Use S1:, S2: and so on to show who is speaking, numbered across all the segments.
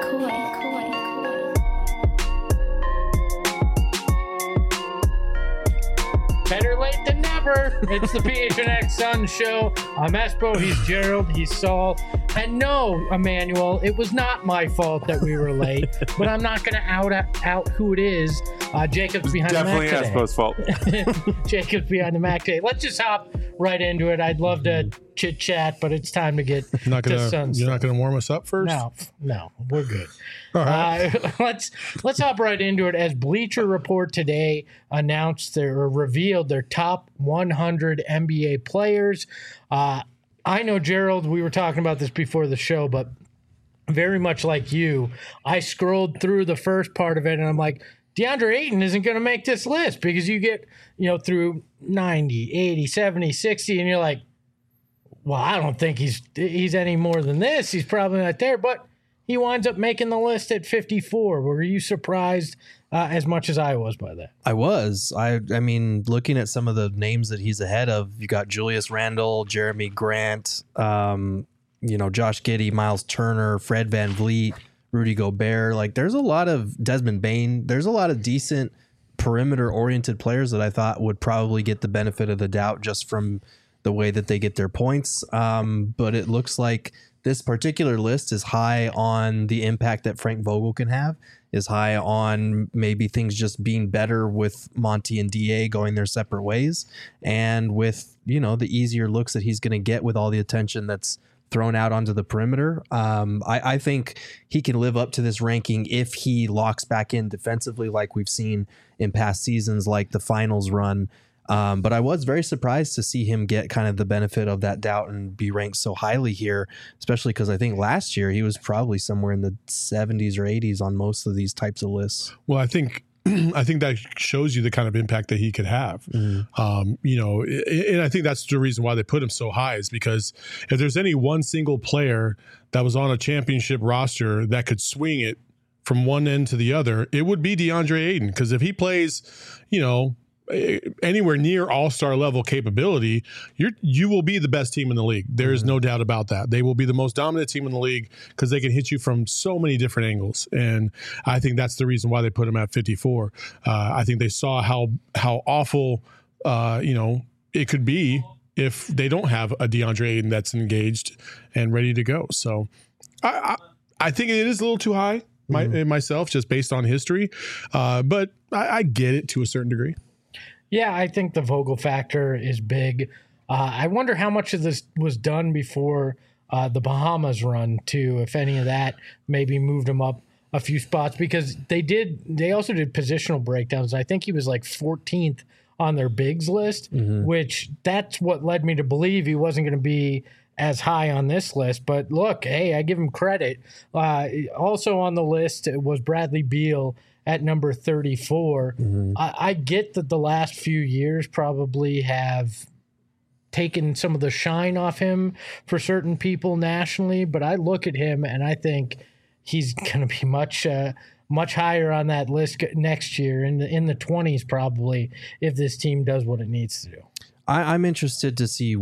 S1: Better late than never. It's the PHNX Sun Show. I'm Espo. He's Gerald. He's Saul. And no, Emmanuel, it was not my fault that we were late. But I'm not going to out who it is. Jacob's behind the Mac today.
S2: Definitely Espo's fault.
S1: Jacob's behind the Mac today. Let's just hop right into it. I'd love to chit chat, but it's time to get to Sun.
S3: You're not going to warm us up first?
S1: No, we're good.
S3: All right.
S1: Let's hop right into it. As Bleacher Report today announced or revealed their top 100 NBA players. I know, Gerald, we were talking about this before the show, but very much like you, I scrolled through the first part of it and I'm like, DeAndre Ayton isn't going to make this list because you get, through 90, 80, 70, 60, and you're like, well, I don't think he's any more than this. He's probably not there, but he winds up making the list at 54. Were you surprised as much as I was by that?
S4: I was. I mean, looking at some of the names that he's ahead of, you got Julius Randle, Jeremy Grant, Josh Giddey, Miles Turner, Fred VanVleet, Rudy Gobert. Like, there's a lot of Desmond Bane. There's a lot of decent perimeter-oriented players that I thought would probably get the benefit of the doubt just from the way that they get their points. But it looks like this particular list is high on the impact that Frank Vogel can have, is high on maybe things just being better with Monty and DA going their separate ways, and with, the easier looks that he's going to get with all the attention that's thrown out onto the perimeter. I think he can live up to this ranking if he locks back in defensively like we've seen in past seasons, like the finals run. But I was very surprised to see him get kind of the benefit of that doubt and be ranked so highly here, especially because I think last year he was probably somewhere in the 70s or 80s on most of these types of lists.
S3: Well, I think that shows you the kind of impact that he could have. And I think that's the reason why they put him so high, is because if there's any one single player that was on a championship roster that could swing it from one end to the other, it would be DeAndre Ayton. Because if he plays, anywhere near all-star level capability, you will be the best team in the league. There is no doubt about that. They will be the most dominant team in the league because they can hit you from so many different angles. And I think that's the reason why they put him at 54. I think they saw how awful, it could be if they don't have a DeAndre Ayton that's engaged and ready to go. So I think it is a little too high myself, just based on history. But I get it to a certain degree.
S1: Yeah, I think the Vogel factor is big. I wonder how much of this was done before the Bahamas run, too, if any of that maybe moved him up a few spots, because they also did positional breakdowns. I think he was like 14th on their bigs list, which that's what led me to believe he wasn't going to be as high on this list. But look, hey, I give him credit. Also on the list was Bradley Beal at number 34. I get that the last few years probably have taken some of the shine off him for certain people nationally, but I look at him and I think he's going to be much higher on that list next year, in the 20s probably, if this team does what it needs to do.
S4: I'm interested to see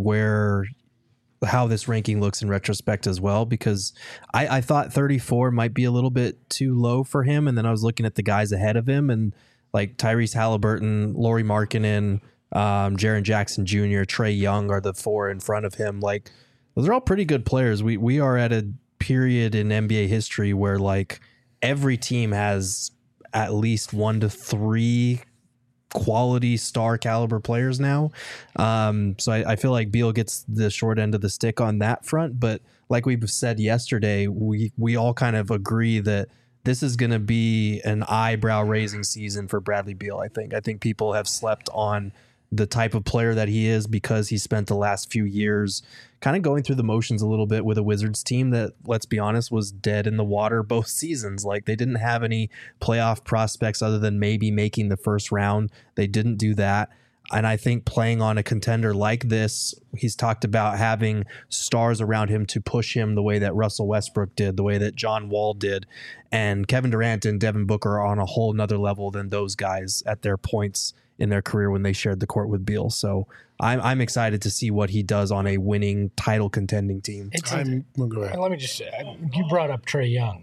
S4: how this ranking looks in retrospect as well, because I thought 34 might be a little bit too low for him. And then I was looking at the guys ahead of him, and like Tyrese Halliburton, Lauri Markkanen, Jaren Jackson Jr., Trae Young are the four in front of him. Like, those are all pretty good players. We are at a period in NBA history where like every team has at least 1 to 3 quality star caliber players now. So I feel like Beal gets the short end of the stick on that front. But like we said yesterday, we all kind of agree that this is going to be an eyebrow raising season for Bradley Beal. I think people have slept on the type of player that he is because he spent the last few years kind of going through the motions a little bit with a Wizards team that, let's be honest, was dead in the water both seasons. Like, they didn't have any playoff prospects other than maybe making the first round. They didn't do that. And I think playing on a contender like this, he's talked about having stars around him to push him the way that Russell Westbrook did, the way that John Wall did. And Kevin Durant and Devin Booker are on a whole nother level than those guys at their points in their career when they shared the court with Beal. So I'm excited to see what he does on a winning title contending team.
S1: Let me just say, you brought up Trae Young.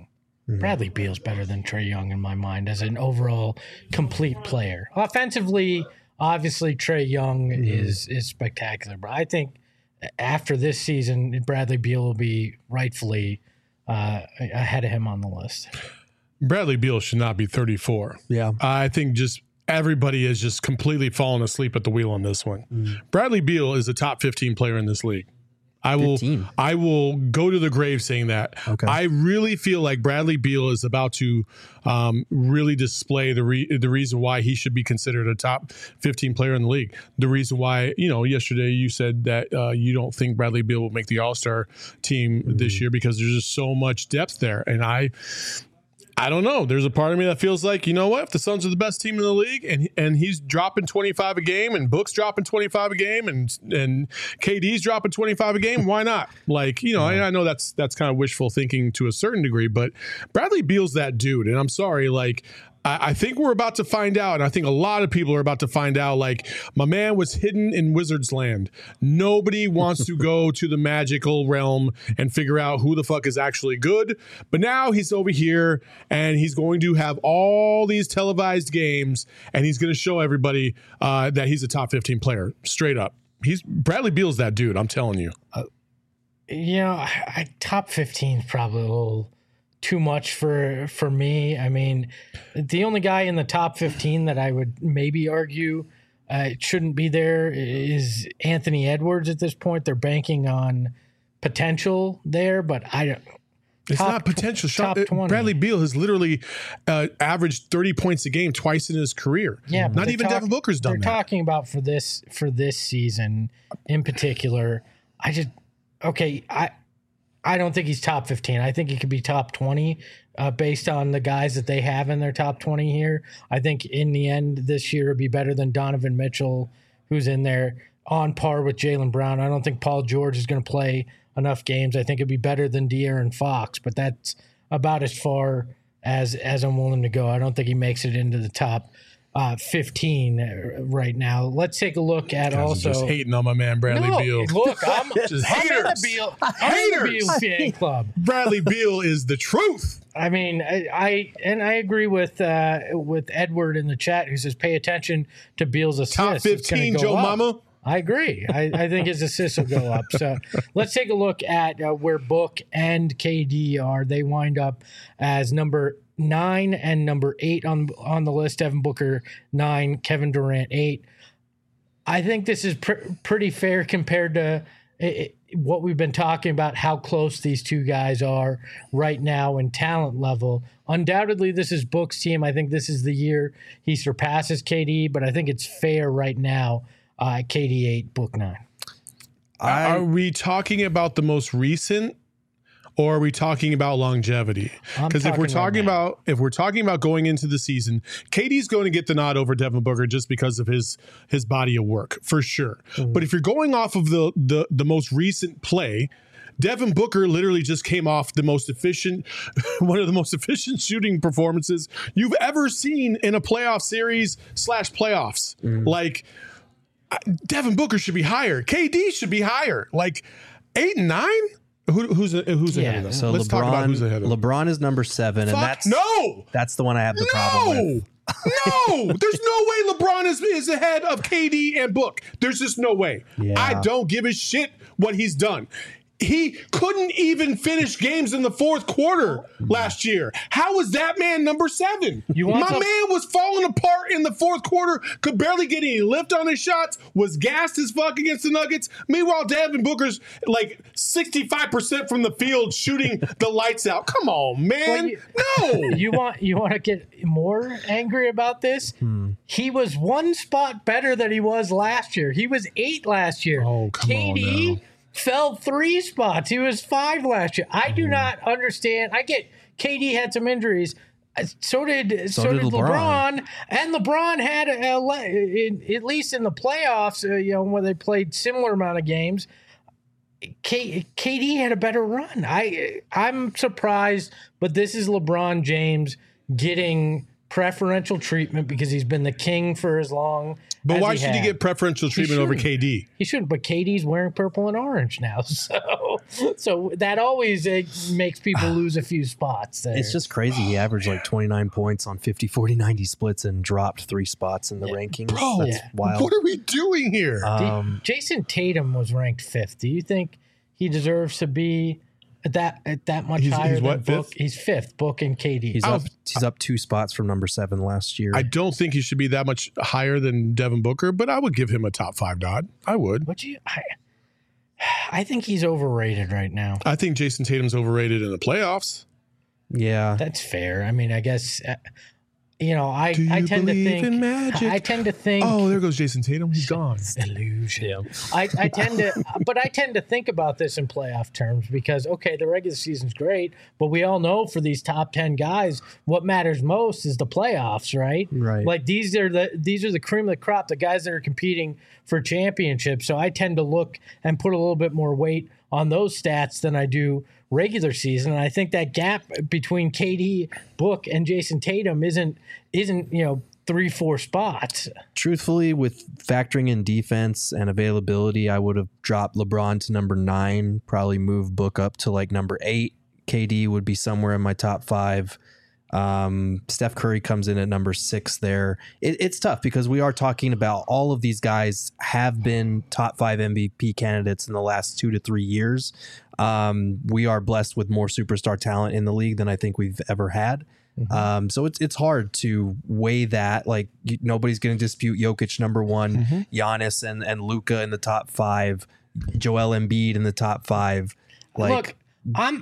S1: Bradley Beal's better than Trae Young in my mind as an overall complete player. Offensively, obviously Trae Young is spectacular, but I think after this season, Bradley Beal will be rightfully ahead of him on the list.
S3: Bradley Beal should not be 34.
S4: Yeah.
S3: I think just everybody is just completely fallen asleep at the wheel on this one. Bradley Beal is a top 15 player in this league. I will go to the grave saying that.
S4: Okay.
S3: I really feel like Bradley Beal is about to really display the reason why he should be considered a top 15 player in the league. The reason why, yesterday you said that you don't think Bradley Beal will make the All-Star team this year because there's just so much depth there. And I don't know. There's a part of me that feels like, you know what? If the Suns are the best team in the league and he's dropping 25 a game and Book's dropping 25 a game and KD's dropping 25 a game, why not? I know that's kind of wishful thinking to a certain degree, but Bradley Beal's that dude. And I'm sorry, I think we're about to find out, and I think a lot of people are about to find out, my man was hidden in Wizard's Land. Nobody wants to go to the magical realm and figure out who the fuck is actually good. But now he's over here, and he's going to have all these televised games, and he's going to show everybody that he's a top 15 player, straight up. Bradley Beal's that dude, I'm telling you.
S1: Top 15 is probably a little too much for me. I mean, the only guy in the top 15 that I would maybe argue shouldn't be there is Anthony Edwards at this point. They're banking on potential there, but I don't.
S3: It's not potential. Top 20. Bradley Beal has literally averaged 30 points a game twice in his career.
S1: Yeah,
S3: not even Devin Booker's done that.
S1: They're talking about for this season in particular. I don't think he's top 15. I think he could be top 20 based on the guys that they have in their top 20 here. I think in the end this year it'd be better than Donovan Mitchell, who's in there on par with Jaylen Brown. I don't think Paul George is going to play enough games. I think it'd be better than De'Aaron Fox, but that's about as far as I'm willing to go. I don't think he makes it into the top 15 right now. Let's take a look at also.
S3: Just hating on my man Bradley Beal.
S1: Look, I'm
S3: just
S1: in the Beal. I'm in the Beal fan club.
S3: Bradley Beal is the truth.
S1: I mean, I agree with Edward in the chat who says pay attention to Beal's assists.
S3: Top 15, Joe
S1: up.
S3: Mama.
S1: I agree. I think his assists will go up. So let's take a look at where Book and KD are. They wind up as number 9 and number 8 on the list. Devin Booker 9, Kevin Durant 8. I think this is pretty fair compared to what we've been talking about, how close these two guys are right now in talent level. Undoubtedly, this is Book's team. I think this is the year he surpasses KD, but I think it's fair right now. KD 8, Book 9.
S3: Are we talking about the most recent, or are we talking about longevity? Because if we're talking about going into the season, KD's going to get the nod over Devin Booker just because of his body of work, for sure. Mm-hmm. But if you're going off of the most recent play, Devin Booker literally just came off one of the most efficient shooting performances you've ever seen in a playoff series / playoffs. Mm-hmm. Devin Booker should be higher. KD should be higher. 8 and 9? Who's ahead of them?
S4: So
S3: Let's talk about who's ahead of them.
S4: LeBron is number 7, and that's the one I have the problem with.
S3: No, there's no way LeBron is ahead of KD and Book. There's just no way.
S4: Yeah.
S3: I don't give a shit what he's done. He couldn't even finish games in the fourth quarter last year. How is that man number 7? Man was falling apart in the fourth quarter, could barely get any lift on his shots, was gassed as fuck against the Nuggets. Meanwhile, Devin Booker's 65% from the field shooting the lights out. Come on, man.
S1: You want to get more angry about this? He was one spot better than he was last year. He was 8 last year.
S3: Oh, come on now.
S1: Fell 3 spots. He was 5 last year. I do not understand. I get KD had some injuries. So did LeBron. And LeBron had at least in the playoffs, when they played similar amount of games. KD had a better run. I'm surprised, but this is LeBron James getting preferential treatment because he's been the king for as long.
S3: But
S1: as
S3: why
S1: he
S3: should he
S1: had.
S3: get preferential treatment over KD?
S1: He shouldn't, but KD's wearing purple and orange now, so that always makes people lose a few spots there.
S4: It's just crazy. He averaged like 29 points on 50, 40, 90 splits and dropped 3 spots in the rankings.
S3: Bro,
S4: That's wild.
S3: what are we doing here?
S1: Jason Tatum was ranked 5th. Do you think he deserves to be at that much higher
S3: he's
S1: than
S3: what,
S1: Book?
S3: 5th?
S1: He's 5th. Book and KD.
S4: He's up 2 spots from number 7 last year.
S3: I don't think he should be that much higher than Devin Booker, but I would give him a top 5 nod. I would.
S1: I think he's overrated right now.
S3: I think Jason Tatum's overrated in the playoffs.
S4: Yeah.
S1: That's fair. I mean, I guess I
S3: Do you
S1: tend to
S3: believe
S1: think
S3: in magic?
S1: I tend to think
S3: Oh, there goes Jason Tatum. He's gone.
S1: illusion. I tend to think about this in playoff terms because the regular season's great, but we all know for these top 10 guys, what matters most is the playoffs, right?
S4: Right.
S1: Like these are the cream of the crop, the guys that are competing for championships. So I tend to look and put a little bit more weight on those stats than I do regular season. And I think that gap between KD, Book, and Jason Tatum isn't 3-4 spots.
S4: Truthfully, with factoring in defense and availability, I would have dropped LeBron to number 9, probably moved Book up to like number 8. KD would be somewhere in my top 5. Steph Curry comes in at number 6 there. It's tough because we are talking about all of these guys have been top 5 MVP candidates in the last 2 to 3 years. We are blessed with more superstar talent in the league than I think we've ever had. So it's hard to weigh that. Like nobody's going to dispute Jokic number 1, Giannis and Luka in the top 5, Joel Embiid in the top 5. Like,
S1: Look,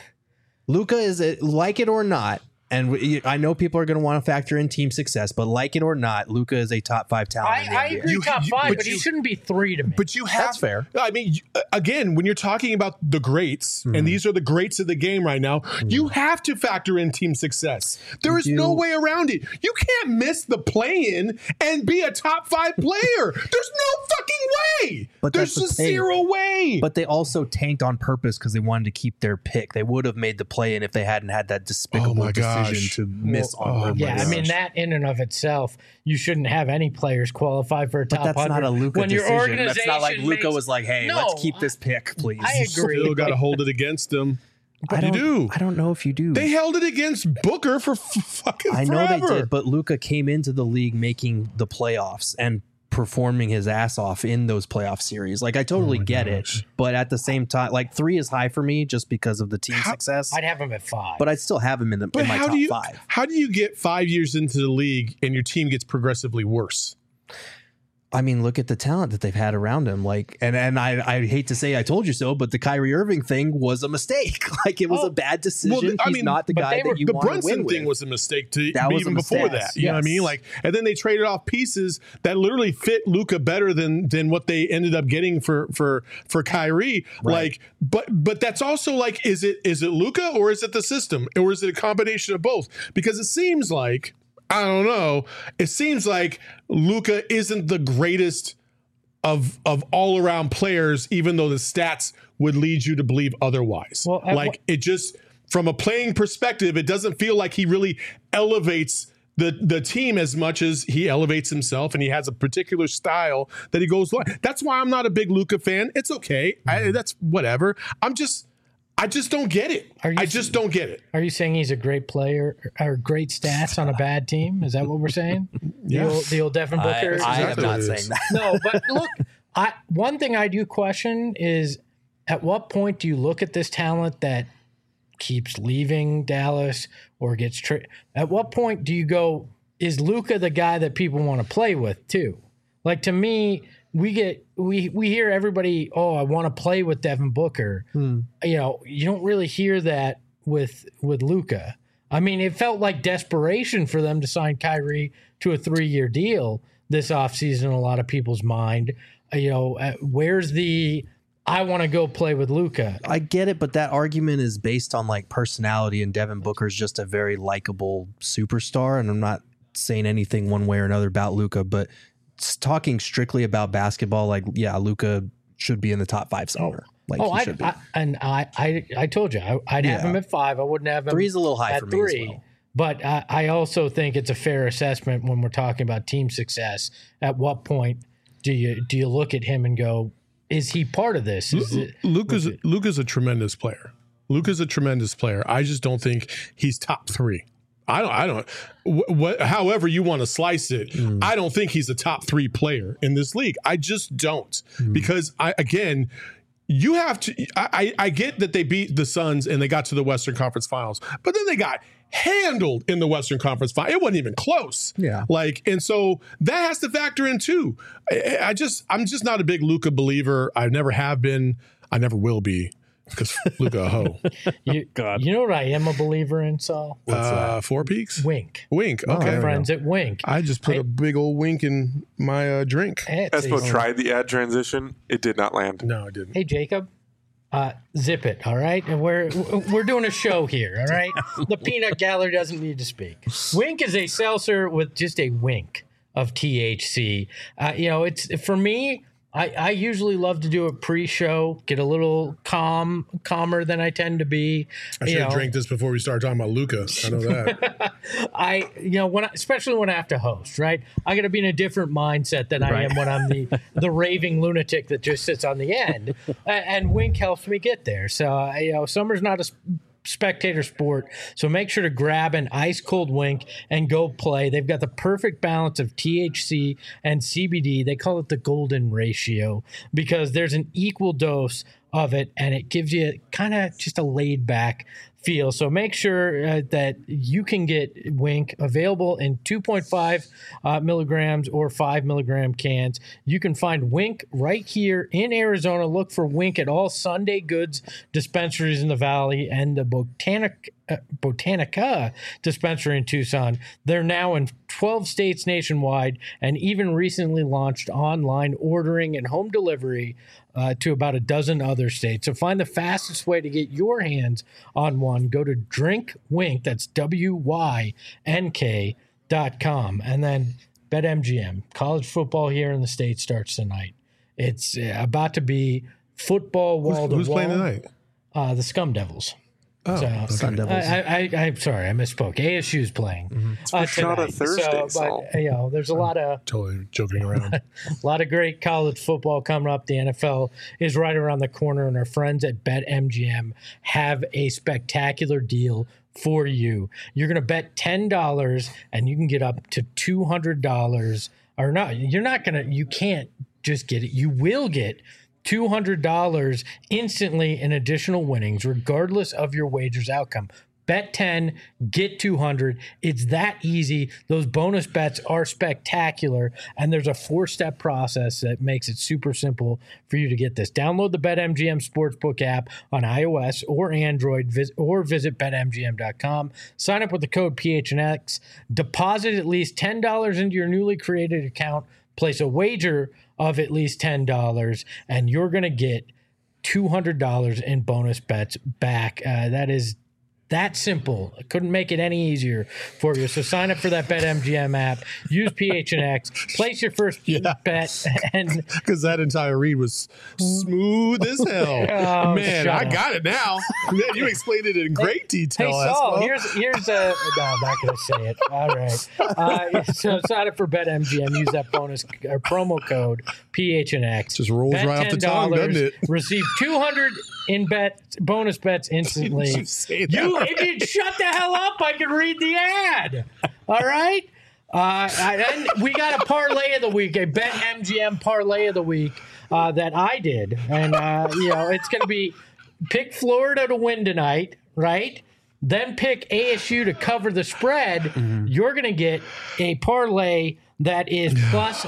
S4: Luka is like it or not. And I know people are going to want to factor in team success, but like it or not, Luka is a top 5 talent.
S1: I agree top 5, but he shouldn't be 3 to me.
S3: But you have
S4: That's fair.
S3: I mean, again, when you're talking about the greats, and these are the greats of the game right now, you have to factor in team success. There is no way around it. You can't miss the play-in and be a top 5 player. There's no fucking way.
S4: But
S3: there's
S4: that's the
S3: just
S4: thing.
S3: zero way.
S4: But they also tanked on purpose because they wanted to keep their pick. They would have made the play in if they hadn't had that despicable decision to miss on purpose.
S1: Yeah, I mean that in and of itself, you shouldn't have any players qualify for a top 100.
S4: But that's not a Luka
S1: when your
S4: decision.
S1: organization
S4: That's not like Luka
S1: makes-
S4: was like, "Hey,
S1: No,
S4: let's keep this pick, please."
S1: I agree.
S3: Still got to hold it against them.
S4: I
S3: You do.
S4: I don't know if you do.
S3: They held it against Booker for fucking
S4: I know
S3: forever.
S4: they did, but Luka came into the league making the playoffs and performing his ass off in those playoff series. Like I totally get it, but at the same time, like 3 is high for me just because of the team success.
S1: I'd have him at 5.
S4: But I'd still have him in my
S3: how
S4: top
S3: do you
S4: 5.
S3: how do you get 5 years into the league and your team gets progressively worse?
S4: I mean, look at the talent that they've had around him. Like, and I hate to say I told you so, but the Kyrie Irving thing was a mistake. Like, it was a bad decision. He's not the guy that you
S3: the
S4: want to
S3: Brunson
S4: win
S3: thing
S4: with.
S3: was a mistake to
S4: That was
S3: even
S4: a
S3: before
S4: mistake.
S3: that. You know what I mean? Like, and then they traded off pieces that literally fit Luka better than what they ended up getting for Kyrie.
S4: Right.
S3: Like, but that's also like, is it Luka or is it the system or is it a combination of both? Because it seems like, I don't know, it seems like Luka isn't the greatest of all around players, even though the stats would lead you to believe otherwise.
S1: Well,
S3: it just, from a playing perspective, it doesn't feel like he really elevates the team as much as he elevates himself, and he has a particular style that he goes like. That's why I'm not a big Luka fan. It's okay. That's whatever. I just don't get it. I just don't get it.
S1: Are you saying he's a great player or great stats on a bad team? Is that what we're saying?
S3: Yeah.
S1: The old Devin Booker?
S4: I am
S3: exactly
S4: not
S3: what it
S4: saying
S3: is.
S4: that.
S1: No, but look, one thing I do question is at what point do you look at this talent that keeps leaving Dallas or gets traded? At what point do you go, is Luka the guy that people want to play with too? Like to me, we hear everybody, oh, I want to play with Devin Booker. You know, you don't really hear that with Luka. I mean, it felt like desperation for them to sign Kyrie to a 3-year deal this offseason in a lot of people's mind. You know, where's the I want to go play with Luka?
S4: I get it, but that argument is based on like personality, and Devin Booker's just a very likable superstar. And I'm not saying anything one way or another about Luka, but talking strictly about basketball, like, yeah, Luka should be in the top 5 somewhere. Like, he should be.
S1: I told you I'd have him at 5. I wouldn't have him
S4: 3 is a little high
S1: at
S4: for me
S1: 3.
S4: as well.
S1: But I also think it's a fair assessment when we're talking about team success. At what point do you look at him and go, is he part of this?
S3: Luke is a tremendous player. Luke is a tremendous player. I just don't think he's top 3. I don't. However you want to slice it, I don't think he's a top 3 player in this league. I just don't, because you have to. I get that they beat the Suns and they got to the Western Conference Finals, but then they got handled in the Western Conference Finals. It wasn't even close.
S4: Yeah.
S3: And so that has to factor in too. I'm just not a big Luka believer. I never have been. I never will be. Because Luka a hoe.
S1: You know what I am a believer in, Saul?
S3: Four Peaks?
S1: Wink.
S3: Okay.
S1: Our friends at Wink.
S3: I just put a big old wink in my drink.
S2: Espo tried the ad transition. It did not land.
S3: No, it didn't.
S1: Hey, Jacob. Zip it, all right? And we're doing a show here, all right? The peanut gallery doesn't need to speak. Wink is a seltzer with just a wink of THC. It's for me. I usually love to do it pre-show, get a little calmer than I tend to be.
S3: I should have drank this before we started talking about Luka. I know that.
S1: Especially when I have to host, right? I got to be in a different mindset than I am when I'm the raving lunatic that just sits on the end. And Wink helps me get there. So, summer's not a spectator sport, so make sure to grab an ice cold Wink and go play. They've got the perfect balance of THC and CBD. They call it the golden ratio because there's an equal dose of it and it gives you kind of just a laid back feel. So make sure that you can get Wink available in 2.5 milligrams or 5 milligram cans. You can find Wink right here in Arizona. Look for Wink at all Sunday Goods dispensaries in the Valley and the Botanica dispensary in Tucson. They're now in 12 states nationwide and even recently launched online ordering and home delivery to about a dozen other states. So find the fastest way to get your hands on one. Go to DrinkWink, that's WYNK.com. And then BetMGM. College football here in the States starts tonight. It's about to be football wall to wall.
S3: Who's playing tonight?
S1: The Scum Devils.
S4: Sun Devils.
S1: I'm sorry, I misspoke. ASU's playing.
S2: It's not a Thursday,
S1: but there's a lot of
S3: totally joking around.
S1: a lot of great college football coming up. The NFL is right around the corner, and our friends at BetMGM have a spectacular deal for you. You're going to bet $10, and you can get up to $200. Or not? You can't just get it. You will get $200 instantly in additional winnings, regardless of your wager's outcome. Bet 10, get 200. It's that easy. Those bonus bets are spectacular, and there's a 4-step process that makes it super simple for you to get this. Download the BetMGM Sportsbook app on iOS or Android, or visit BetMGM.com. Sign up with the code PHNX. Deposit at least $10 into your newly created account. Place a wager of at least $10, and you're going to get $200 in bonus bets back. That is that simple. I couldn't make it any easier for you. So sign up for that BetMGM app. Use PHNX. Place your first bet. And
S3: because that entire read was smooth as hell. Man, I got it now. You explained it in great detail.
S1: Hey, Saul, here's a... No, I'm not going to say it. All right. So sign up for BetMGM. Use that bonus or promo code PHNX.
S3: Just rolls
S1: bet
S3: right off the tongue, doesn't it?
S1: Receive $200 in bonus bets instantly. If you'd shut the hell up, I could read the ad. All right? And we got a parlay of the week, a BetMGM parlay of the week that I did. And, it's going to be pick Florida to win tonight, right? Then pick ASU to cover the spread. Mm-hmm. You're going to get a parlay that is plus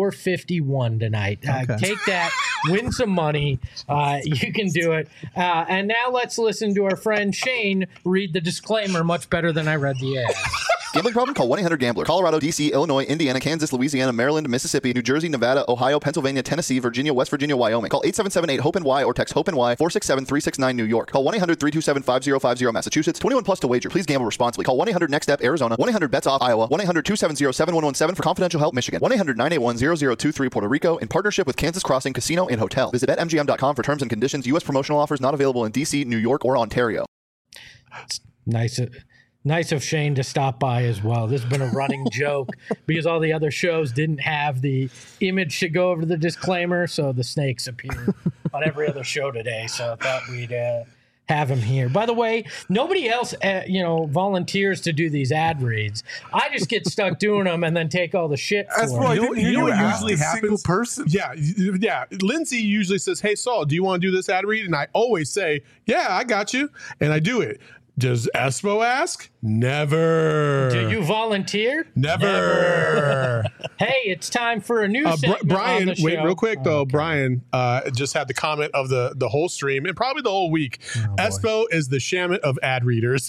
S1: 451 tonight. Okay. Take that, win some money. You can do it. And now let's listen to our friend Shane read the disclaimer much better than I read the ad.
S5: Gambling problem? Call 1-800-GAMBLER. Colorado, D.C., Illinois, Indiana, Kansas, Louisiana, Maryland, Mississippi, New Jersey, Nevada, Ohio, Pennsylvania, Tennessee, Virginia, West Virginia, Wyoming. Call 877-8-HOPE-NY or text HOPE-NY 467-369 New York. Call 1-800-327-5050 Massachusetts. 21 plus to wager. Please gamble responsibly. Call 1-800-NEXT-STEP Arizona. 1-800-BETS-OFF Iowa. 1-800-270-7117 for confidential help Michigan. 1-800-981-0023 Puerto Rico in partnership with Kansas Crossing Casino and Hotel. Visit BetMGM.com for terms and conditions. U.S. promotional offers not available in D.C., New York, or Ontario.
S1: Nice Nice of Shane to stop by as well. This has been a running joke because all the other shows didn't have the image to go over the disclaimer, so the snakes appeared on every other show today. So I thought we'd have him here. By the way, nobody else, volunteers to do these ad reads. I just get stuck doing them and then take all the shit for them.
S3: You know what usually happens?
S2: Person.
S3: Yeah. Lindsay usually says, "Hey, Saul, do you want to do this ad read?" And I always say, "Yeah, I got you," and I do it. Does Espo ask? Never.
S1: Do you volunteer?
S3: Never.
S1: Hey, it's time for a new segment
S3: Brian,
S1: on the show.
S3: wait, real quick though. Okay. Brian just had the comment of the whole stream and probably the whole week. Espo is the Shamit of ad readers.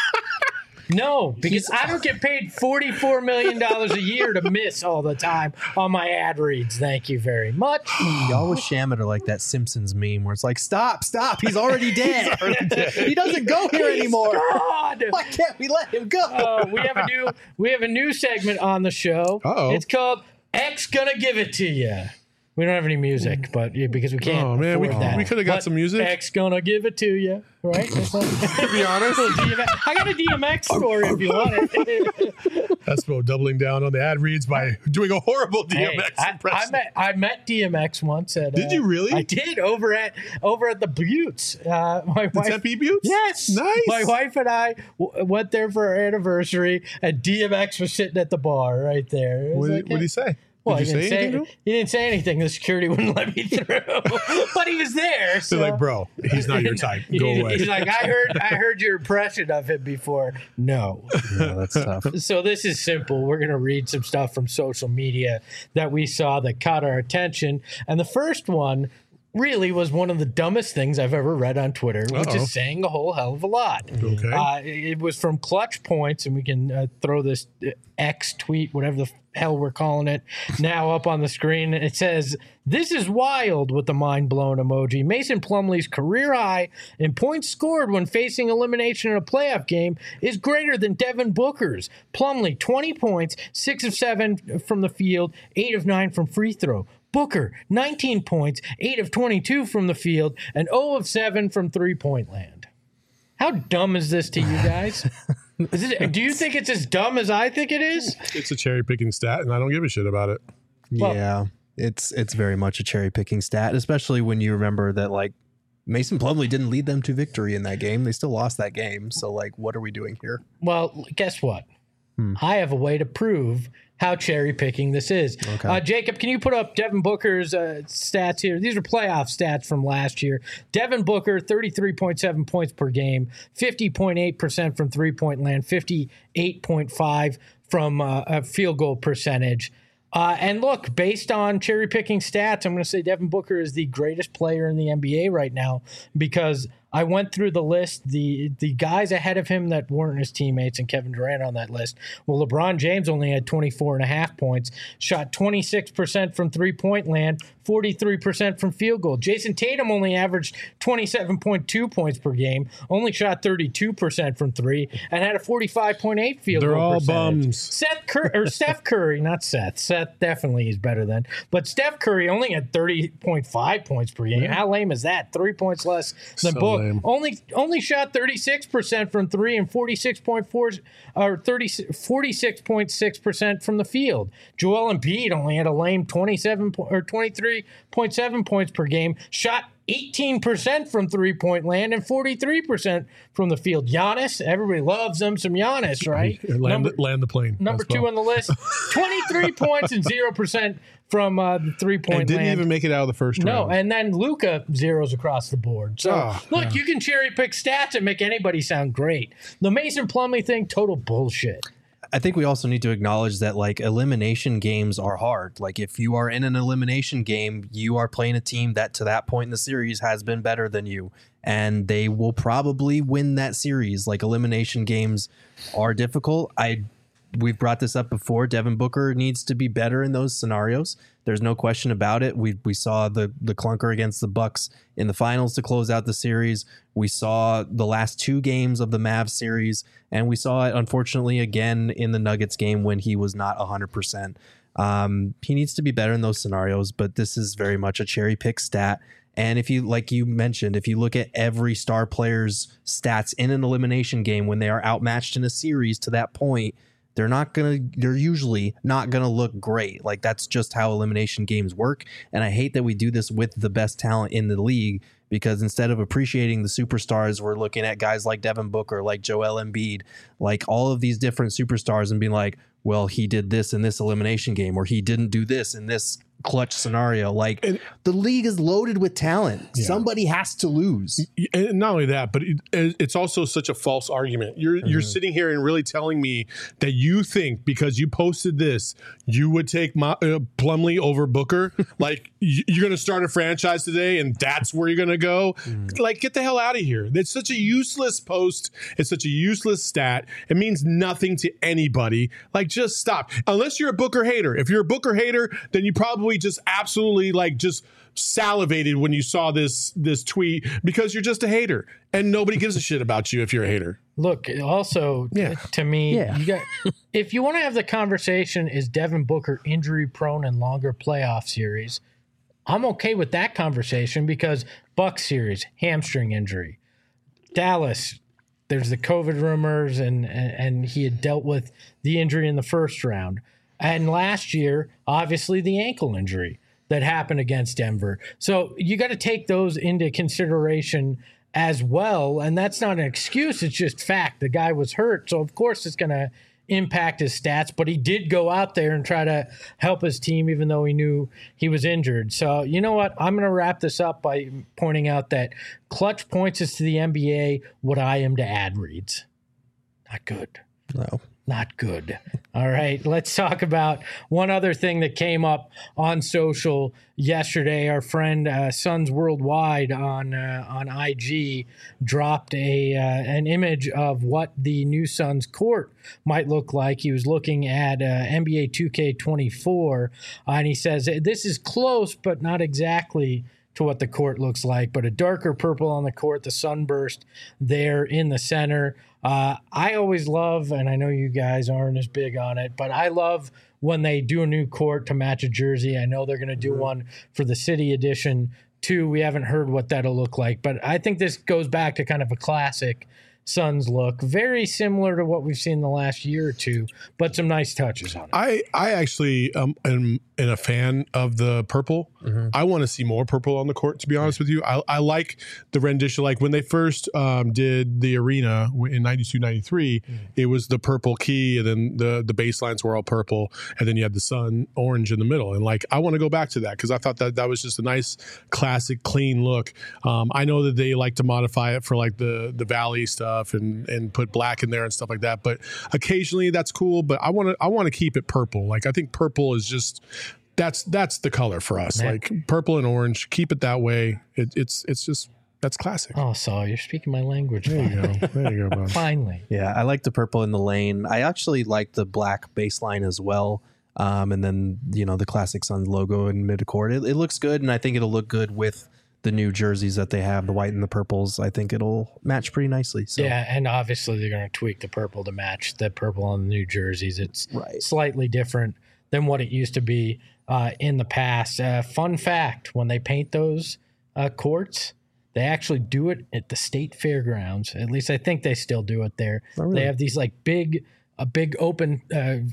S1: No, because I don't get paid $44 million a year to miss all the time on my ad reads. Thank you very much.
S4: Y'all with Shamit are like that Simpsons meme where it's like, stop, he's already dead. He doesn't go here anymore.
S1: God.
S4: Why can't we let him go?
S1: We have a new segment on the show.
S3: Uh-oh.
S1: It's called X Gonna Give It To You. We don't have any music, but because we can't.
S3: Oh man, we could have got some music.
S1: X Gonna Give It To You, right?
S2: To be honest,
S1: I got a DMX story if you want it.
S3: Espo doubling down on the ad reads by doing a horrible DMX impression.
S1: I met DMX once at.
S3: Did you really?
S1: I did over at the Buttes. My wife,
S3: Tempe Buttes?
S1: Yes,
S3: nice.
S1: My wife and I went there for our anniversary, and DMX was sitting at the bar right there.
S3: What did he say?
S1: Well,
S3: Did you say anything to him?
S1: He didn't say anything. The security wouldn't let me through, but he was there. So.
S3: They're like, bro, he's not your type. Go away.
S1: He's like, I heard your impression of him before. No,
S4: Yeah, that's tough.
S1: So this is simple. We're gonna read some stuff from social media that we saw that caught our attention, and the first one really was one of the dumbest things I've ever read on Twitter, which is saying a whole hell of a lot.
S3: Okay.
S1: It was from Clutch Points, and we can throw this X tweet, whatever the hell we're calling it, now up on the screen. It says, "This is wild," with the mind-blown emoji. Mason Plumlee's career high in points scored when facing elimination in a playoff game is greater than Devin Booker's. Plumlee, 20 points, 6 of 7 from the field, 8 of 9 from free throw. Booker, 19 points, 8 of 22 from the field, and 0 of 7 from three-point land. How dumb is this to you guys? Do you think it's as dumb as I think it is?
S3: It's a cherry picking stat, and I don't give a shit about it.
S4: Yeah, it's very much a cherry picking stat, especially when you remember that like Mason Plumlee didn't lead them to victory in that game. They still lost that game. So like, what are we doing here?
S1: Well, guess what? I have a way to prove how cherry picking this is.
S4: Okay.
S1: Jacob, can you put up Devin Booker's stats here? These are playoff stats from last year. Devin Booker, 33.7 points per game, 50.8% from three-point land, 58.5 from field goal percentage. And look, based on cherry picking stats, I'm going to say Devin Booker is the greatest player in the NBA right now because I went through the list, the guys ahead of him that weren't his teammates and Kevin Durant on that list. Well, LeBron James only had 24.5 points, shot 26% from three-point land, 43% from field goal. Jason Tatum only averaged 27.2 points per game, only shot 32% from three, and had a 45.8 field
S3: They're
S1: goal
S3: all
S1: percentage.
S3: bums.
S1: Steph Curry, not Seth. Seth definitely is better than. But Steph Curry only had 30.5 points per game. How lame is that? 3 points less than
S3: So
S1: Book.
S3: lame.
S1: Only shot 36% from three and 46.6% from the field. Joel Embiid only had a lame 23.7 points per game. Shot 18% from three-point land and 43% from the field. Giannis, everybody loves them some Giannis, right?
S3: Land the plane.
S1: Number
S3: That's
S1: two on the list, 23 points and 0% from the three-point
S3: and didn't
S1: land.
S3: even make it out of the first
S1: No,
S3: round.
S1: and then Luka zeros across the board. So, look, you can cherry-pick stats and make anybody sound great. The Mason Plumlee thing, total bullshit.
S4: I think we also need to acknowledge that like elimination games are hard. Like if you are in an elimination game, you are playing a team that to that point in the series has been better than you, and they will probably win that series. Like elimination games are difficult. We've brought this up before. Devin Booker needs to be better in those scenarios. There's no question about it. We saw the clunker against the Bucks in the finals to close out the series. We saw the last two games of the Mavs series, and we saw it unfortunately again in the Nuggets game when he was not 100%. He needs to be better in those scenarios, but this is very much a cherry pick stat. And if you, like you mentioned, if you look at every star player's stats in an elimination game when they are outmatched in a series to that point, they're usually not gonna look great. Like, that's just how elimination games work. And I hate that we do this with the best talent in the league, because instead of appreciating the superstars, we're looking at guys like Devin Booker, like Joel Embiid, like all of these different superstars, and being like, well, he did this in this elimination game, or he didn't do this in this clutch scenario. Like, the league is loaded with talent. Yeah. Somebody has to lose.
S3: And not only that, but it's also such a false argument. You're sitting here and really telling me that you think because you posted this, you would take Plumlee over Booker. Like, you're going to start a franchise today and that's where you're going to go. Like, get the hell out of here. It's such a useless post. It's such a useless stat. It means nothing to anybody. Like, just stop. Unless you're a Booker hater. If you're a Booker hater, then you probably just absolutely just salivated when you saw this tweet, because you're just a hater and nobody gives a shit about you if you're a hater.
S1: Look, also, to me, you got, if you want to have the conversation, is Devin Booker injury prone in longer playoff series? I'm okay with that conversation, because Bucks series, hamstring injury. Dallas, there's the COVID rumors, and he had dealt with the injury in the first round. And last year, obviously, the ankle injury that happened against Denver. So you got to take those into consideration as well. And that's not an excuse. It's just fact. The guy was hurt. So, of course, it's going to impact his stats. But he did go out there and try to help his team, even though he knew he was injured. So, you know what? I'm going to wrap this up by pointing out that clutch points is to the NBA what I am to ad reads. Not good.
S4: No.
S1: Not good. All right, let's talk about one other thing that came up on social yesterday. Our friend Suns Worldwide on IG dropped an image of what the new Suns court might look like. He was looking at NBA 2K24, and he says, this is close, but not exactly to what the court looks like, but a darker purple on the court, the sunburst there in the center. I always love, and I know you guys aren't as big on it, but I love when they do a new court to match a jersey. I know they're going to do one for the City Edition too. We haven't heard what that'll look like, but I think this goes back to kind of a classic Suns look, very similar to what we've seen the last year or two, but some nice touches on it.
S3: I actually am a fan of the purple. I want to see more purple on the court, to be honest with you. I like the rendition. Like when they first did the arena in 92, 93, it was the purple key, and then the baselines were all purple, and then you had the sun orange in the middle. And like, I want to go back to that, because I thought that was just a nice, classic, clean look. I know that they like to modify it for like the Valley stuff and put black in there and stuff like that, but occasionally that's cool. But I want to keep it purple. Like, I think purple is just that's the color for us. Man. Like purple and orange, keep it that way. It's just, that's classic.
S1: Oh, Saul, you're speaking my language.
S3: There you go. There you go, bud.
S1: Finally.
S4: Yeah, I like the purple in the lane. I actually like the black baseline as well. And then, the classic Suns logo in midcourt. It looks good, and I think it'll look good with the new jerseys that they have, the white and the purples. I think it'll match pretty nicely. So.
S1: Yeah, and obviously they're going to tweak the purple to match the purple on the new jerseys. It's slightly different than what it used to be in the past. Fun fact, when they paint those courts, they actually do it at the state fairgrounds. At least I think they still do it there. Oh, really? They have these like big open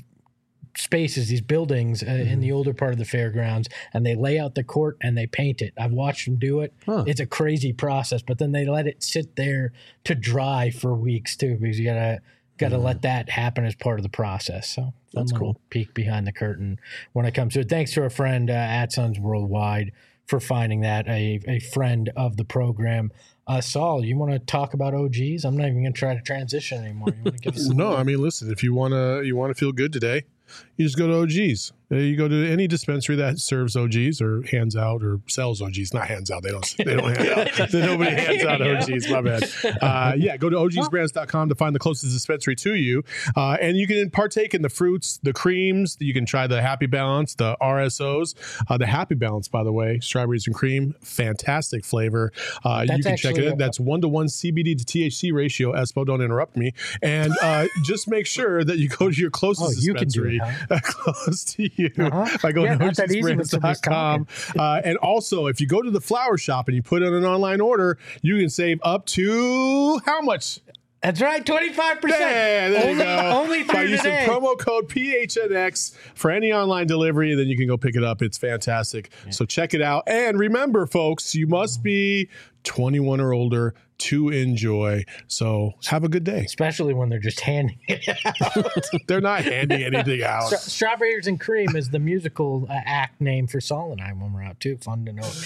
S1: spaces, these buildings in the older part of the fairgrounds, and they lay out the court and they paint it. I've watched them do it. It's a crazy process, but then they let it sit there to dry for weeks too, because you gotta let that happen as part of the process. So that's cool. Peek behind the curtain when it comes to it. Thanks to our friend at Suns Worldwide for finding that, a friend of the program. Saul, you want to talk about OGs? I'm not even going to try to transition anymore. You want to give us
S3: No, I mean, listen, if you want to feel good today, you just go to OGs. You go to any dispensary that serves OGs or hands out or sells OGs. Not hands out. They don't hand out. Nobody hands out OGs. My bad. Go to ogsbrands.com to find the closest dispensary to you. And you can partake in the fruits, the creams. You can try the Happy Balance, the RSOs. The Happy Balance, by the way, strawberries and cream, fantastic flavor. You can check it out. That's 1-to-1 CBD to THC ratio. Espo, don't interrupt me. And just make sure that you go to your closest dispensary close to you by going to HostesBrands.com. And also, if you go to the flower shop and you put in an online order, you can save up to how much?
S1: That's right, 25%.
S3: Yeah, there you go.
S1: Only
S3: by
S1: through
S3: using
S1: today.
S3: promo code PHNX for any online delivery, and then you can go pick it up. It's fantastic. So check it out. And remember, folks, you must be 21 or older to enjoy. So have a good day.
S1: Especially when they're just handing it out.
S3: They're not handing anything out.
S1: Strawberries and Cream is the musical act name for Solonine when we're out, too. Fun to know.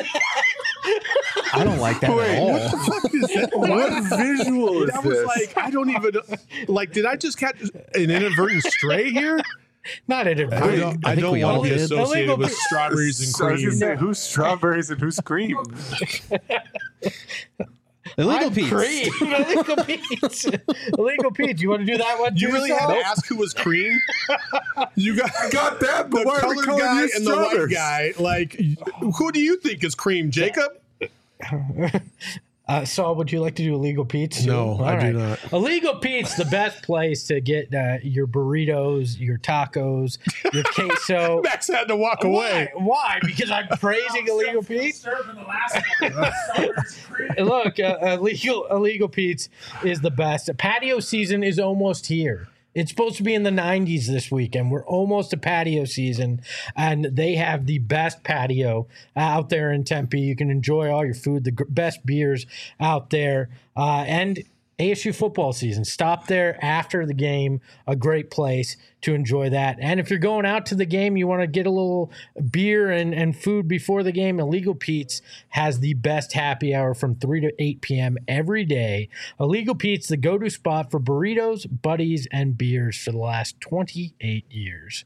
S4: I don't like that at all.
S3: What the fuck is that?
S2: What visual is
S3: That was
S2: this?
S3: like, I don't even, like, did I just catch an inadvertent stray here?
S1: Not inadvertent.
S3: I don't
S4: we
S3: want
S4: all
S3: to be
S4: did.
S3: associated
S1: Illegal-
S3: with strawberries and
S2: So I was
S3: cream.
S2: gonna say, who's strawberries and who's cream?
S4: Illegal Pete's.
S1: Cream. Illegal Pete's. Illegal Pete's. You want to do that one, too?
S3: You really had
S1: Sal?
S3: to ask who was cream? You got
S2: that, but
S3: the
S2: why are we
S3: colored
S2: calling
S3: guy
S2: you
S3: and the white
S2: strawberries?
S3: guy. Like, who do you think is cream, Jacob?
S1: Saul, would you like to do Illegal Pete's?
S3: No,
S1: All
S3: I do not.
S1: Illegal Pete's, the best place to get your burritos, your tacos, your queso.
S3: Max had to walk away.
S1: Why? Because I'm praising Illegal Pete's?
S6: Serving the last one.
S1: Look, Illegal Pete's is the best. Patio season is almost here. It's supposed to be in the 90s this weekend. We're almost to patio season, and they have the best patio out there in Tempe. You can enjoy all your food, the best beers out there, and ASU football season. Stop there after the game, a great place to enjoy that. And if you're going out to the game, you want to get a little beer and food before the game, Illegal Pete's has the best happy hour from 3 to 8 p.m. every day. Illegal Pete's, the go-to spot for burritos, buddies, and beers for the last 28 years.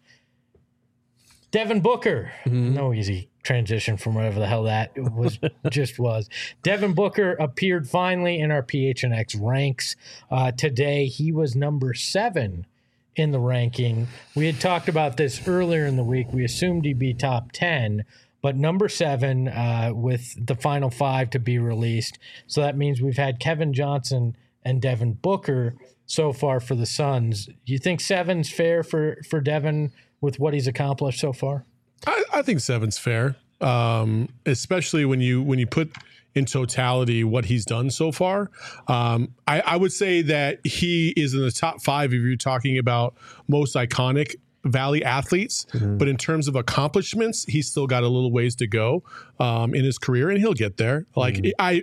S1: Devin Booker. No easy transition from whatever the hell that was was. Devin Booker appeared finally in our PHNX ranks today. He was number 7 in the ranking. We had talked about this earlier in the week. We assumed he'd be top 10, but number 7 with the final 5 to be released. So that means we've had Kevin Johnson and Devin Booker so far for the Suns. Do you think 7's fair for Devin with what he's accomplished so far?
S3: I think 7's fair, especially when you put in totality what he's done so far. I would say that he is in the top 5 if you're talking about most iconic Valley athletes. But in terms of accomplishments, he's still got a little ways to go in his career, and he'll get there. Like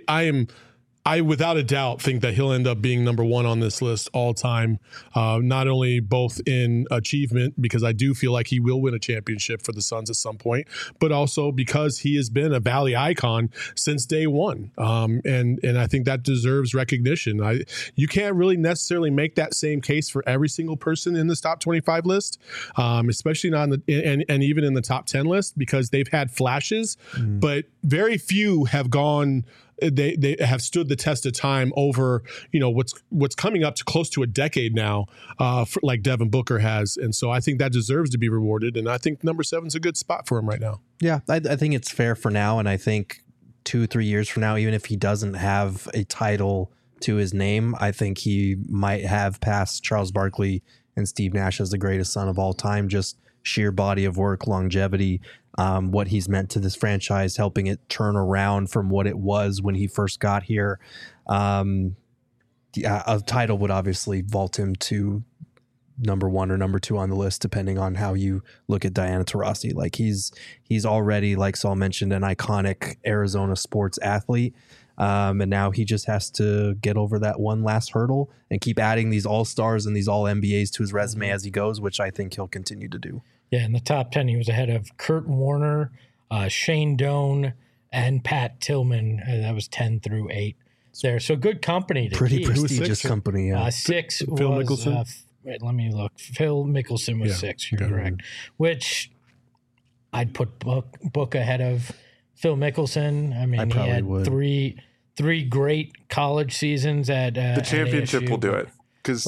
S3: I without a doubt think that he'll end up being number 1 on this list all time, not only both in achievement, because I do feel like he will win a championship for the Suns at some point, but also because he has been a Valley icon since day one. And I think that deserves recognition. You can't really necessarily make that same case for every single person in this top 25 list, especially not and even in the top 10 list, because they've had flashes, but very few have gone. They have stood the test of time over, what's coming up to close to a decade now, like Devin Booker has. And so I think that deserves to be rewarded. And I think number 7's a good spot for him right now.
S4: Yeah, I think it's fair for now. And I think 2-3 years from now, even if he doesn't have a title to his name, I think he might have passed Charles Barkley and Steve Nash as the greatest Sun of all time. Just sheer body of work, longevity, what he's meant to this franchise, helping it turn around from what it was when he first got here. A title would obviously vault him to number 1 or number 2 on the list, depending on how you look at Diana Taurasi. Like he's already, like Saul mentioned, an iconic Arizona sports athlete. And now he just has to get over that one last hurdle and keep adding these all-stars and these all-NBAs to his resume as he goes, which I think he'll continue to do.
S1: Yeah, in the top 10, he was ahead of Kurt Warner, Shane Doan, and Pat Tillman. That was 10 through 8 there. So good company to
S4: Pretty
S1: keep.
S4: prestigious company. Yeah.
S1: 6
S3: Phil
S1: was,
S3: Mickelson?
S1: wait, let me look. Phil Mickelson was 6, you're correct. Which I'd put Book ahead of Phil Mickelson. I mean, he had
S4: would.
S1: three great college seasons at
S2: The championship
S1: ASU.
S2: will do it because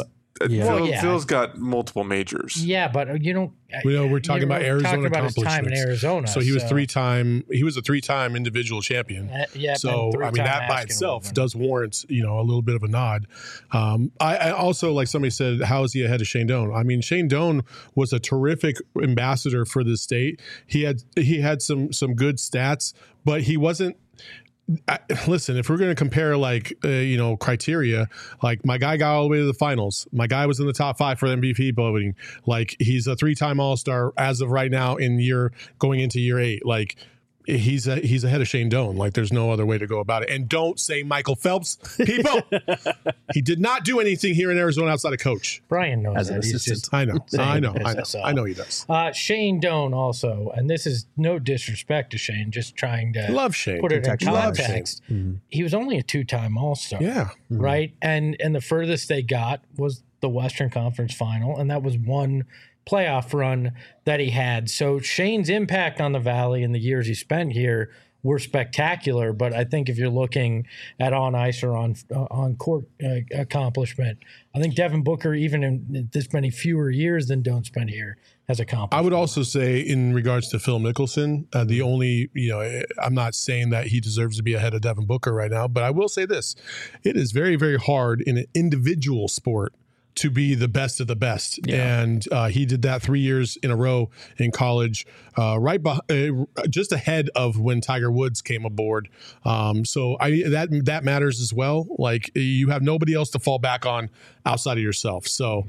S4: Yeah.
S1: Well, yeah.
S2: Phil's got multiple majors.
S1: Yeah, but you don't.
S3: We're talking about Arizona
S1: talking about his time in
S3: accomplishments.
S1: Arizona.
S3: So he was He was a 3-time individual champion.
S1: Yeah.
S3: So I mean that by itself does warrant a little bit of a nod. I also, like somebody said, how is he ahead of Shane Doan? I mean, Shane Doan was a terrific ambassador for the state. He had some good stats, but he wasn't. Listen, if we're going to compare criteria, like my guy got all the way to the finals. My guy was in the top 5 for MVP voting. Like he's a 3-time All-Star as of right now going into year 8. Like he's ahead of Shane Doan. Like there's no other way to go about it. And don't say Michael Phelps, people. He did not do anything here in Arizona outside of coach.
S1: Brian knows
S4: As an
S1: that. He's
S4: assistant.
S1: just
S3: I know
S1: SSL.
S3: I know he does.
S1: Shane Doan also, and this is no disrespect to Shane, just trying to
S3: Love Shane.
S1: put it in
S3: Love
S1: context. He was only a 2-time All-Star.
S3: Yeah.
S1: Right? And the furthest they got was the Western Conference Final, and that was one playoff run that he had. So Shane's impact on the Valley in the years he spent here were spectacular, but I think if you're looking at on ice or on court accomplishment, I think Devin Booker, even in this many fewer years than Doan spent here, has accomplished.
S3: I would also say, in regards to Phil Mickelson, the only, I'm not saying that he deserves to be ahead of Devin Booker right now, but I will say this: it is very, very hard in an individual sport to be the best of the best. Yeah. And he did that 3 years in a row in college, just ahead of when Tiger Woods came aboard. So that matters as well. Like you have nobody else to fall back on outside of yourself. So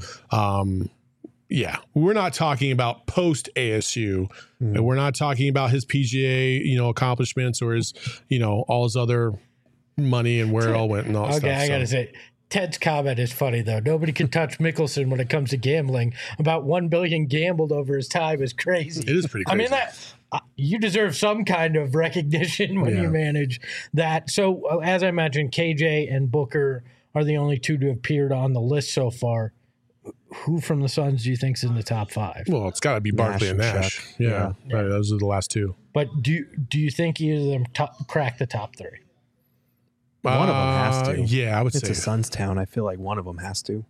S3: yeah, we're not talking about post ASU. And we're not talking about his PGA, accomplishments or his, all his other money and where it all went and all that stuff.
S1: Okay, I got to say, Ted's comment is funny, though. Nobody can touch Mickelson when it comes to gambling. About $1 billion gambled over his time is crazy.
S3: It is pretty crazy.
S1: I mean, you deserve some kind of recognition when you manage that. So, as I mentioned, KJ and Booker are the only two to have appeared on the list so far. Who from the Suns do you think is in the top 5?
S3: Well, it's got to be Barkley and Nash. Yeah. Right, those are the last two.
S1: But do you think either of them crack the top 3?
S4: One of them has to.
S3: Yeah, I would say
S4: it's a Suns town. I feel like one of them has to.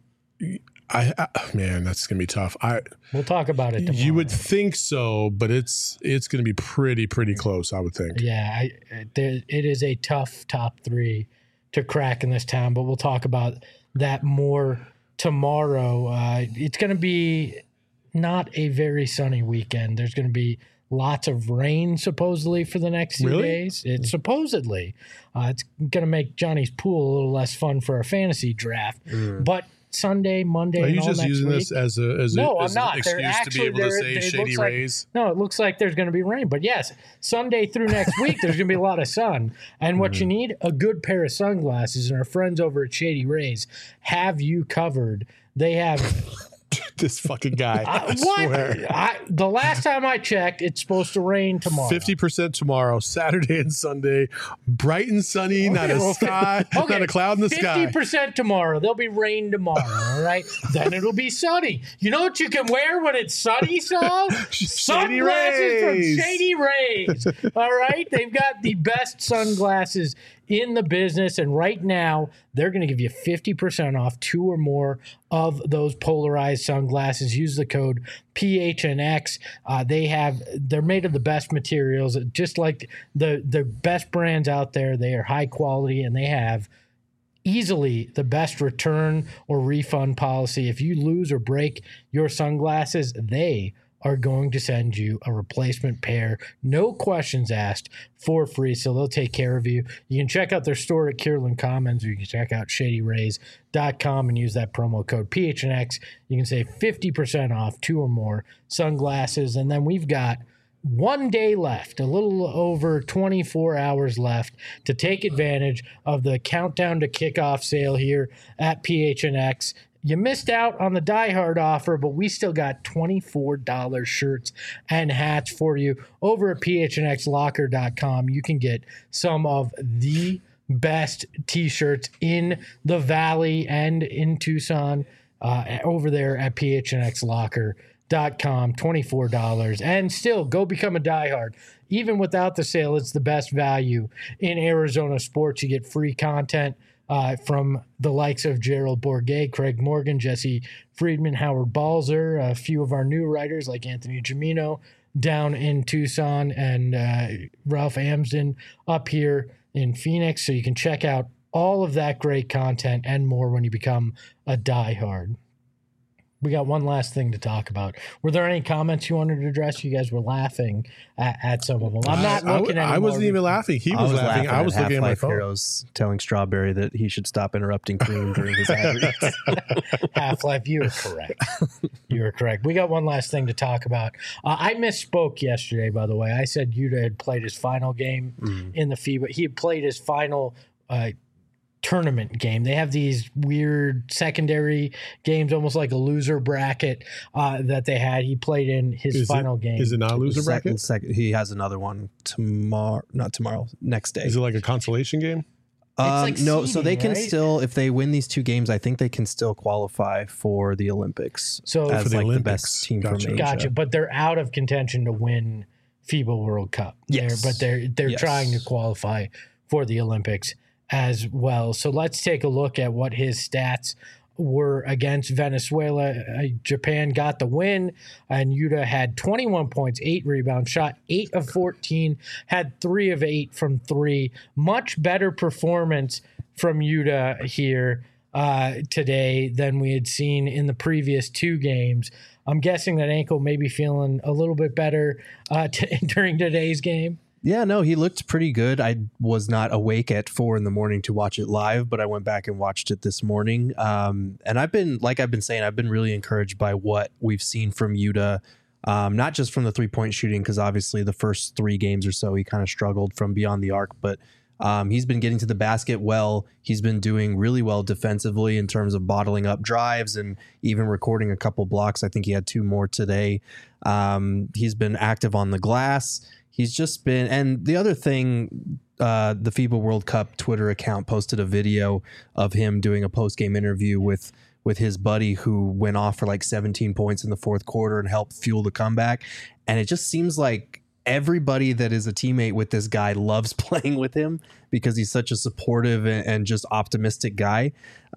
S3: Man, that's gonna be tough.
S1: We'll talk about it tomorrow.
S3: You would think so, but it's gonna be pretty close, I would think.
S1: Yeah, it is a tough top 3 to crack in this town, but we'll talk about that more tomorrow. It's gonna be not a very sunny weekend. There's gonna be lots of rain supposedly for the next few days. It's supposedly. It's going to make Johnny's pool a little less fun for our fantasy draft. But Sunday, Monday,
S3: are you
S1: and all
S3: just
S1: next
S3: using
S1: week,
S3: this as an excuse to be able to say shady rays?
S1: No, it looks like there's going to be rain. But yes, Sunday through next week, there's going to be a lot of sun. And what you need, a good pair of sunglasses. And our friends over at Shady Rays have you covered. They have...
S3: This fucking guy. I swear.
S1: The last time I checked, it's supposed to rain tomorrow.
S3: 50% tomorrow, Saturday and Sunday, bright and sunny, not a cloud in the sky.
S1: 50% tomorrow. There'll be rain tomorrow. All right. Then it'll be sunny. You know what you can wear when it's sunny, Saul? Sunglasses from Shady Rays. All right. They've got the best sunglasses in the business, and right now they're going to give you 50% off 2 or more of those polarized sunglasses. Use the code PHNX. They're made of the best materials, just like the best brands out there. They are high quality, and they have easily the best return or refund policy. If you lose or break your sunglasses, they are going to send you a replacement pair, no questions asked, for free. So they'll take care of you. You can check out their store at Kierland Commons, or you can check out shadyrays.com and use that promo code PHNX. You can save 50% off 2 or more sunglasses. And then we've got 1 day left, a little over 24 hours left to take advantage of the countdown to kickoff sale here at PHNX. You missed out on the Die Hard offer, but we still got $24 shirts and hats for you over at phnxlocker.com. You can get some of the best T-shirts in the Valley and in Tucson over there at phnxlocker.com. $24. And still, go become a diehard. Even without the sale, it's the best value in Arizona sports. You get free content from the likes of Gerald Bourget, Craig Morgan, Jesse Friedman, Howard Balzer, a few of our new writers like Anthony Gimino down in Tucson, and Ralph Amsden up here in Phoenix. So you can check out all of that great content and more when you become a diehard. We got one last thing to talk about. Were there any comments you wanted to address? You guys were laughing at some of them. I'm not looking at.
S3: I wasn't even laughing. He was laughing. I was looking at my phone.
S4: Heroes telling Strawberry that he should stop interrupting Cream during his ad reads.
S1: Half-Life, you were correct. You were correct. We got one last thing to talk about. I misspoke yesterday, by the way. I said Yuta had played his final game in the FIBA. He had played his final tournament game. They have these weird secondary games, almost like a loser bracket that they had. He played in his final game.
S3: Is it not a loser bracket?
S4: He has another one not tomorrow, next day.
S3: Is it like a consolation game?
S1: Like
S4: no,
S1: seeding,
S4: so they can
S1: right?
S4: still, if they win these 2 games, I think they can still qualify for the Olympics.
S1: So
S4: as
S3: for the
S4: like
S3: Olympics.
S4: the best team
S3: Gotcha.
S4: from Asia.
S1: Gotcha, but they're out of contention to win FIBA World Cup.
S4: Yes.
S1: They're
S4: Yes.
S1: trying to qualify for the Olympics as well. So let's take a look at what his stats were against Venezuela. Japan got the win, and Yuta had 21 points, 8 rebounds, shot 8 of 14, had 3 of 8 from 3. Much better performance from Yuta here today than we had seen in the previous 2 games. I'm guessing that ankle may be feeling a little bit better during today's game.
S4: Yeah, no, he looked pretty good. I was not awake at 4 a.m. to watch it live, but I went back and watched it this morning. And I've been really encouraged by what we've seen from Yuta, not just from the 3-point shooting, because obviously the first 3 games or so he kind of struggled from beyond the arc, but he's been getting to the basket well. He's been doing really well defensively in terms of bottling up drives and even recording a couple blocks. I think he had 2 more today. He's been active on the glass. He's just been, and the other thing, the FIBA World Cup Twitter account posted a video of him doing a post-game interview with his buddy who went off for like 17 points in the 4th quarter and helped fuel the comeback. And it just seems like everybody that is a teammate with this guy loves playing with him because he's such a supportive and just optimistic guy.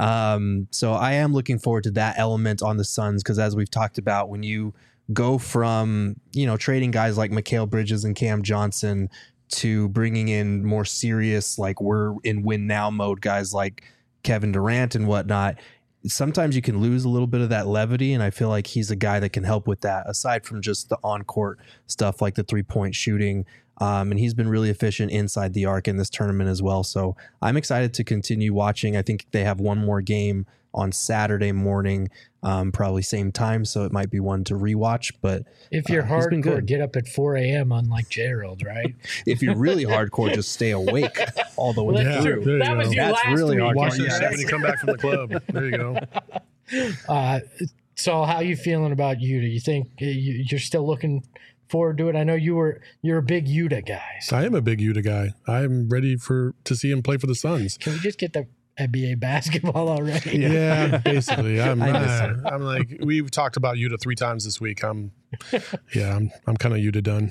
S4: So I am looking forward to that element on the Suns, because as we've talked about, when you go from, trading guys like Mikal Bridges and Cam Johnson to bringing in more serious, like we're in win now mode guys like Kevin Durant and whatnot, sometimes you can lose a little bit of that levity. And I feel like he's a guy that can help with that, aside from just the on-court stuff like the 3-point shooting. And he's been really efficient inside the arc in this tournament as well. So I'm excited to continue watching. I think they have one more game on Saturday morning, probably same time, so it might be one to rewatch. But
S1: if you're hardcore, get up at 4 a.m. unlike Gerald, right?
S4: If you're really hardcore, just stay awake all the way
S1: That's
S4: through.
S1: true. That was you
S4: That's
S1: last
S4: really
S1: week.
S4: hardcore.
S3: Watch that
S4: Yeah,
S3: shit when you come back from the club. There you go.
S1: So how you feeling about Yuta? You think you're still looking forward to it? I know you're a big Yuta guy. So
S3: I am a big Yuta guy. I'm ready to see him play for the Suns.
S1: can we just get the NBA basketball already?
S3: Yeah, basically. I'm like, we've talked about Yuta 3 times this week. I'm kind of Yuta done.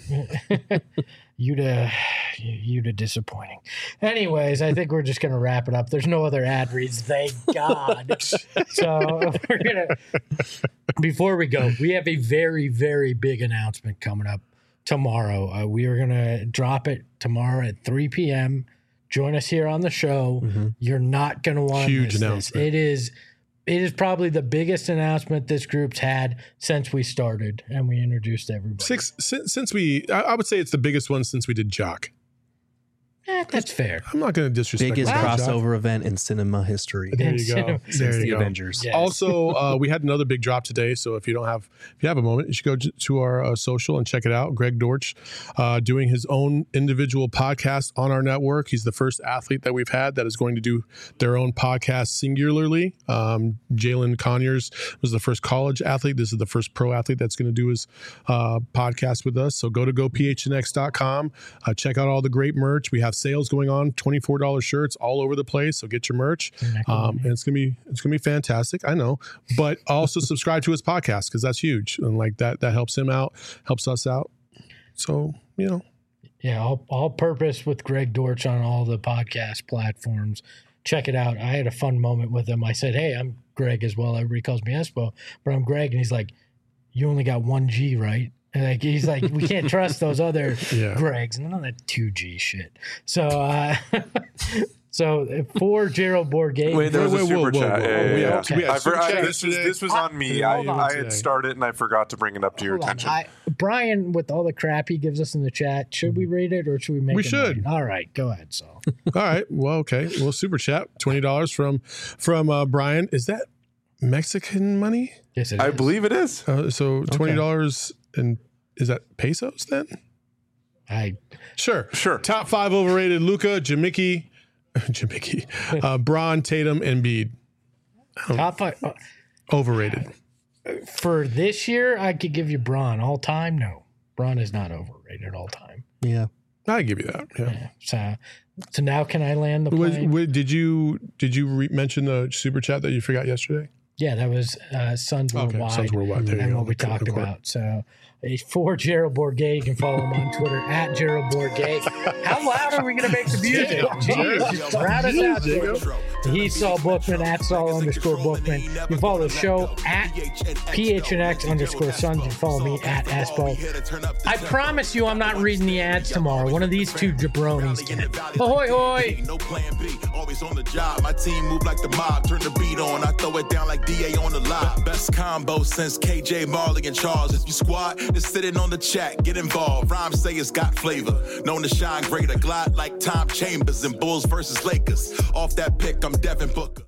S1: Yuta disappointing. Anyways, I think we're just gonna wrap it up. There's no other ad reads, thank God. So before we go, we have a very, very big announcement coming up tomorrow. We are gonna drop it tomorrow at 3 p.m. Join us here on the show. Mm-hmm. You're not going to want to miss this. It is probably the biggest announcement this group's had since we started and we introduced everybody.
S3: I would say it's the biggest one since we did Jock.
S1: That's fair.
S3: I'm not going to disrespect.
S4: Biggest crossover event in cinema history.
S3: There you go.
S4: Since the Avengers.
S1: Yes.
S3: Also, we had another big drop today. So if you have a moment, you should go to our social and check it out. Greg Dortch doing his own individual podcast on our network. He's the first athlete that we've had that is going to do their own podcast singularly. Jalen Conyers was the first college athlete. This is the first pro athlete that's going to do his podcast with us. So go to gophnx.com. Check out all the great merch. We have sales going on, $24 shirts all over the place. So get your merch. And it's gonna be fantastic. I know, but also subscribe to his podcast because that's huge. And like that helps him out, helps us out. So,
S1: Yeah, all purpose with Greg Dortch on all the podcast platforms. check it out. I had a fun moment with him. I said, hey, I'm Greg as well. Everybody calls me Espo, but I'm Greg. And he's like, you only got 1G, right? And like, he's like, we can't trust those other Gregs. None of that 2G shit. So, so for Gerald Bourget.
S2: Wait, there was a super chat.
S1: Okay.
S2: This was on me. I had started and I forgot to bring it up to your attention.
S1: Brian, with all the crap he gives us in the chat, should we read it or should we make it?
S3: We should.
S1: All right, go ahead. So,
S3: all right. Well, okay. Well, super chat, $20 from Brian. Is that Mexican money?
S1: Yes,
S2: I believe it is.
S3: So $20 and is that pesos then? Sure. Top 5 overrated: Luka, Jamicki, Braun, Tatum, Embiid.
S1: Top 5
S3: overrated.
S1: For this year, I could give you Braun. All time, no. Braun is not overrated all time.
S4: Yeah.
S3: I give you that. Yeah.
S1: So now can I land the plane?
S3: Did you mention the super chat that you forgot yesterday?
S1: Yeah, that was Suns Worldwide.
S3: Suns Worldwide. There you
S1: and
S3: go.
S1: what we talked about. So for Gerald Bourget, you can follow him on Twitter at Gerald Bourget. How loud are we going to make the music? Jeez, just round us out, Jacob. He's Saul Bookman at Saul_Bookman. You can follow the show at PHNX_Suns. You can follow me at Espo. I promise you I'm not reading the ads tomorrow. One of these two jabronis can. Ahoy, hoy.
S7: No plan B, always on the job. My team move like the mob. Turn the beat on, I throw it down like DA on the lot. Best combo since KJ, Marley, and Charles. If you squad, just sitting on the chat, get involved. Rhymes say it's got flavor. Known to shine greater, glide like Tom Chambers in Bulls versus Lakers. Off that pick, I'm Devin Booker.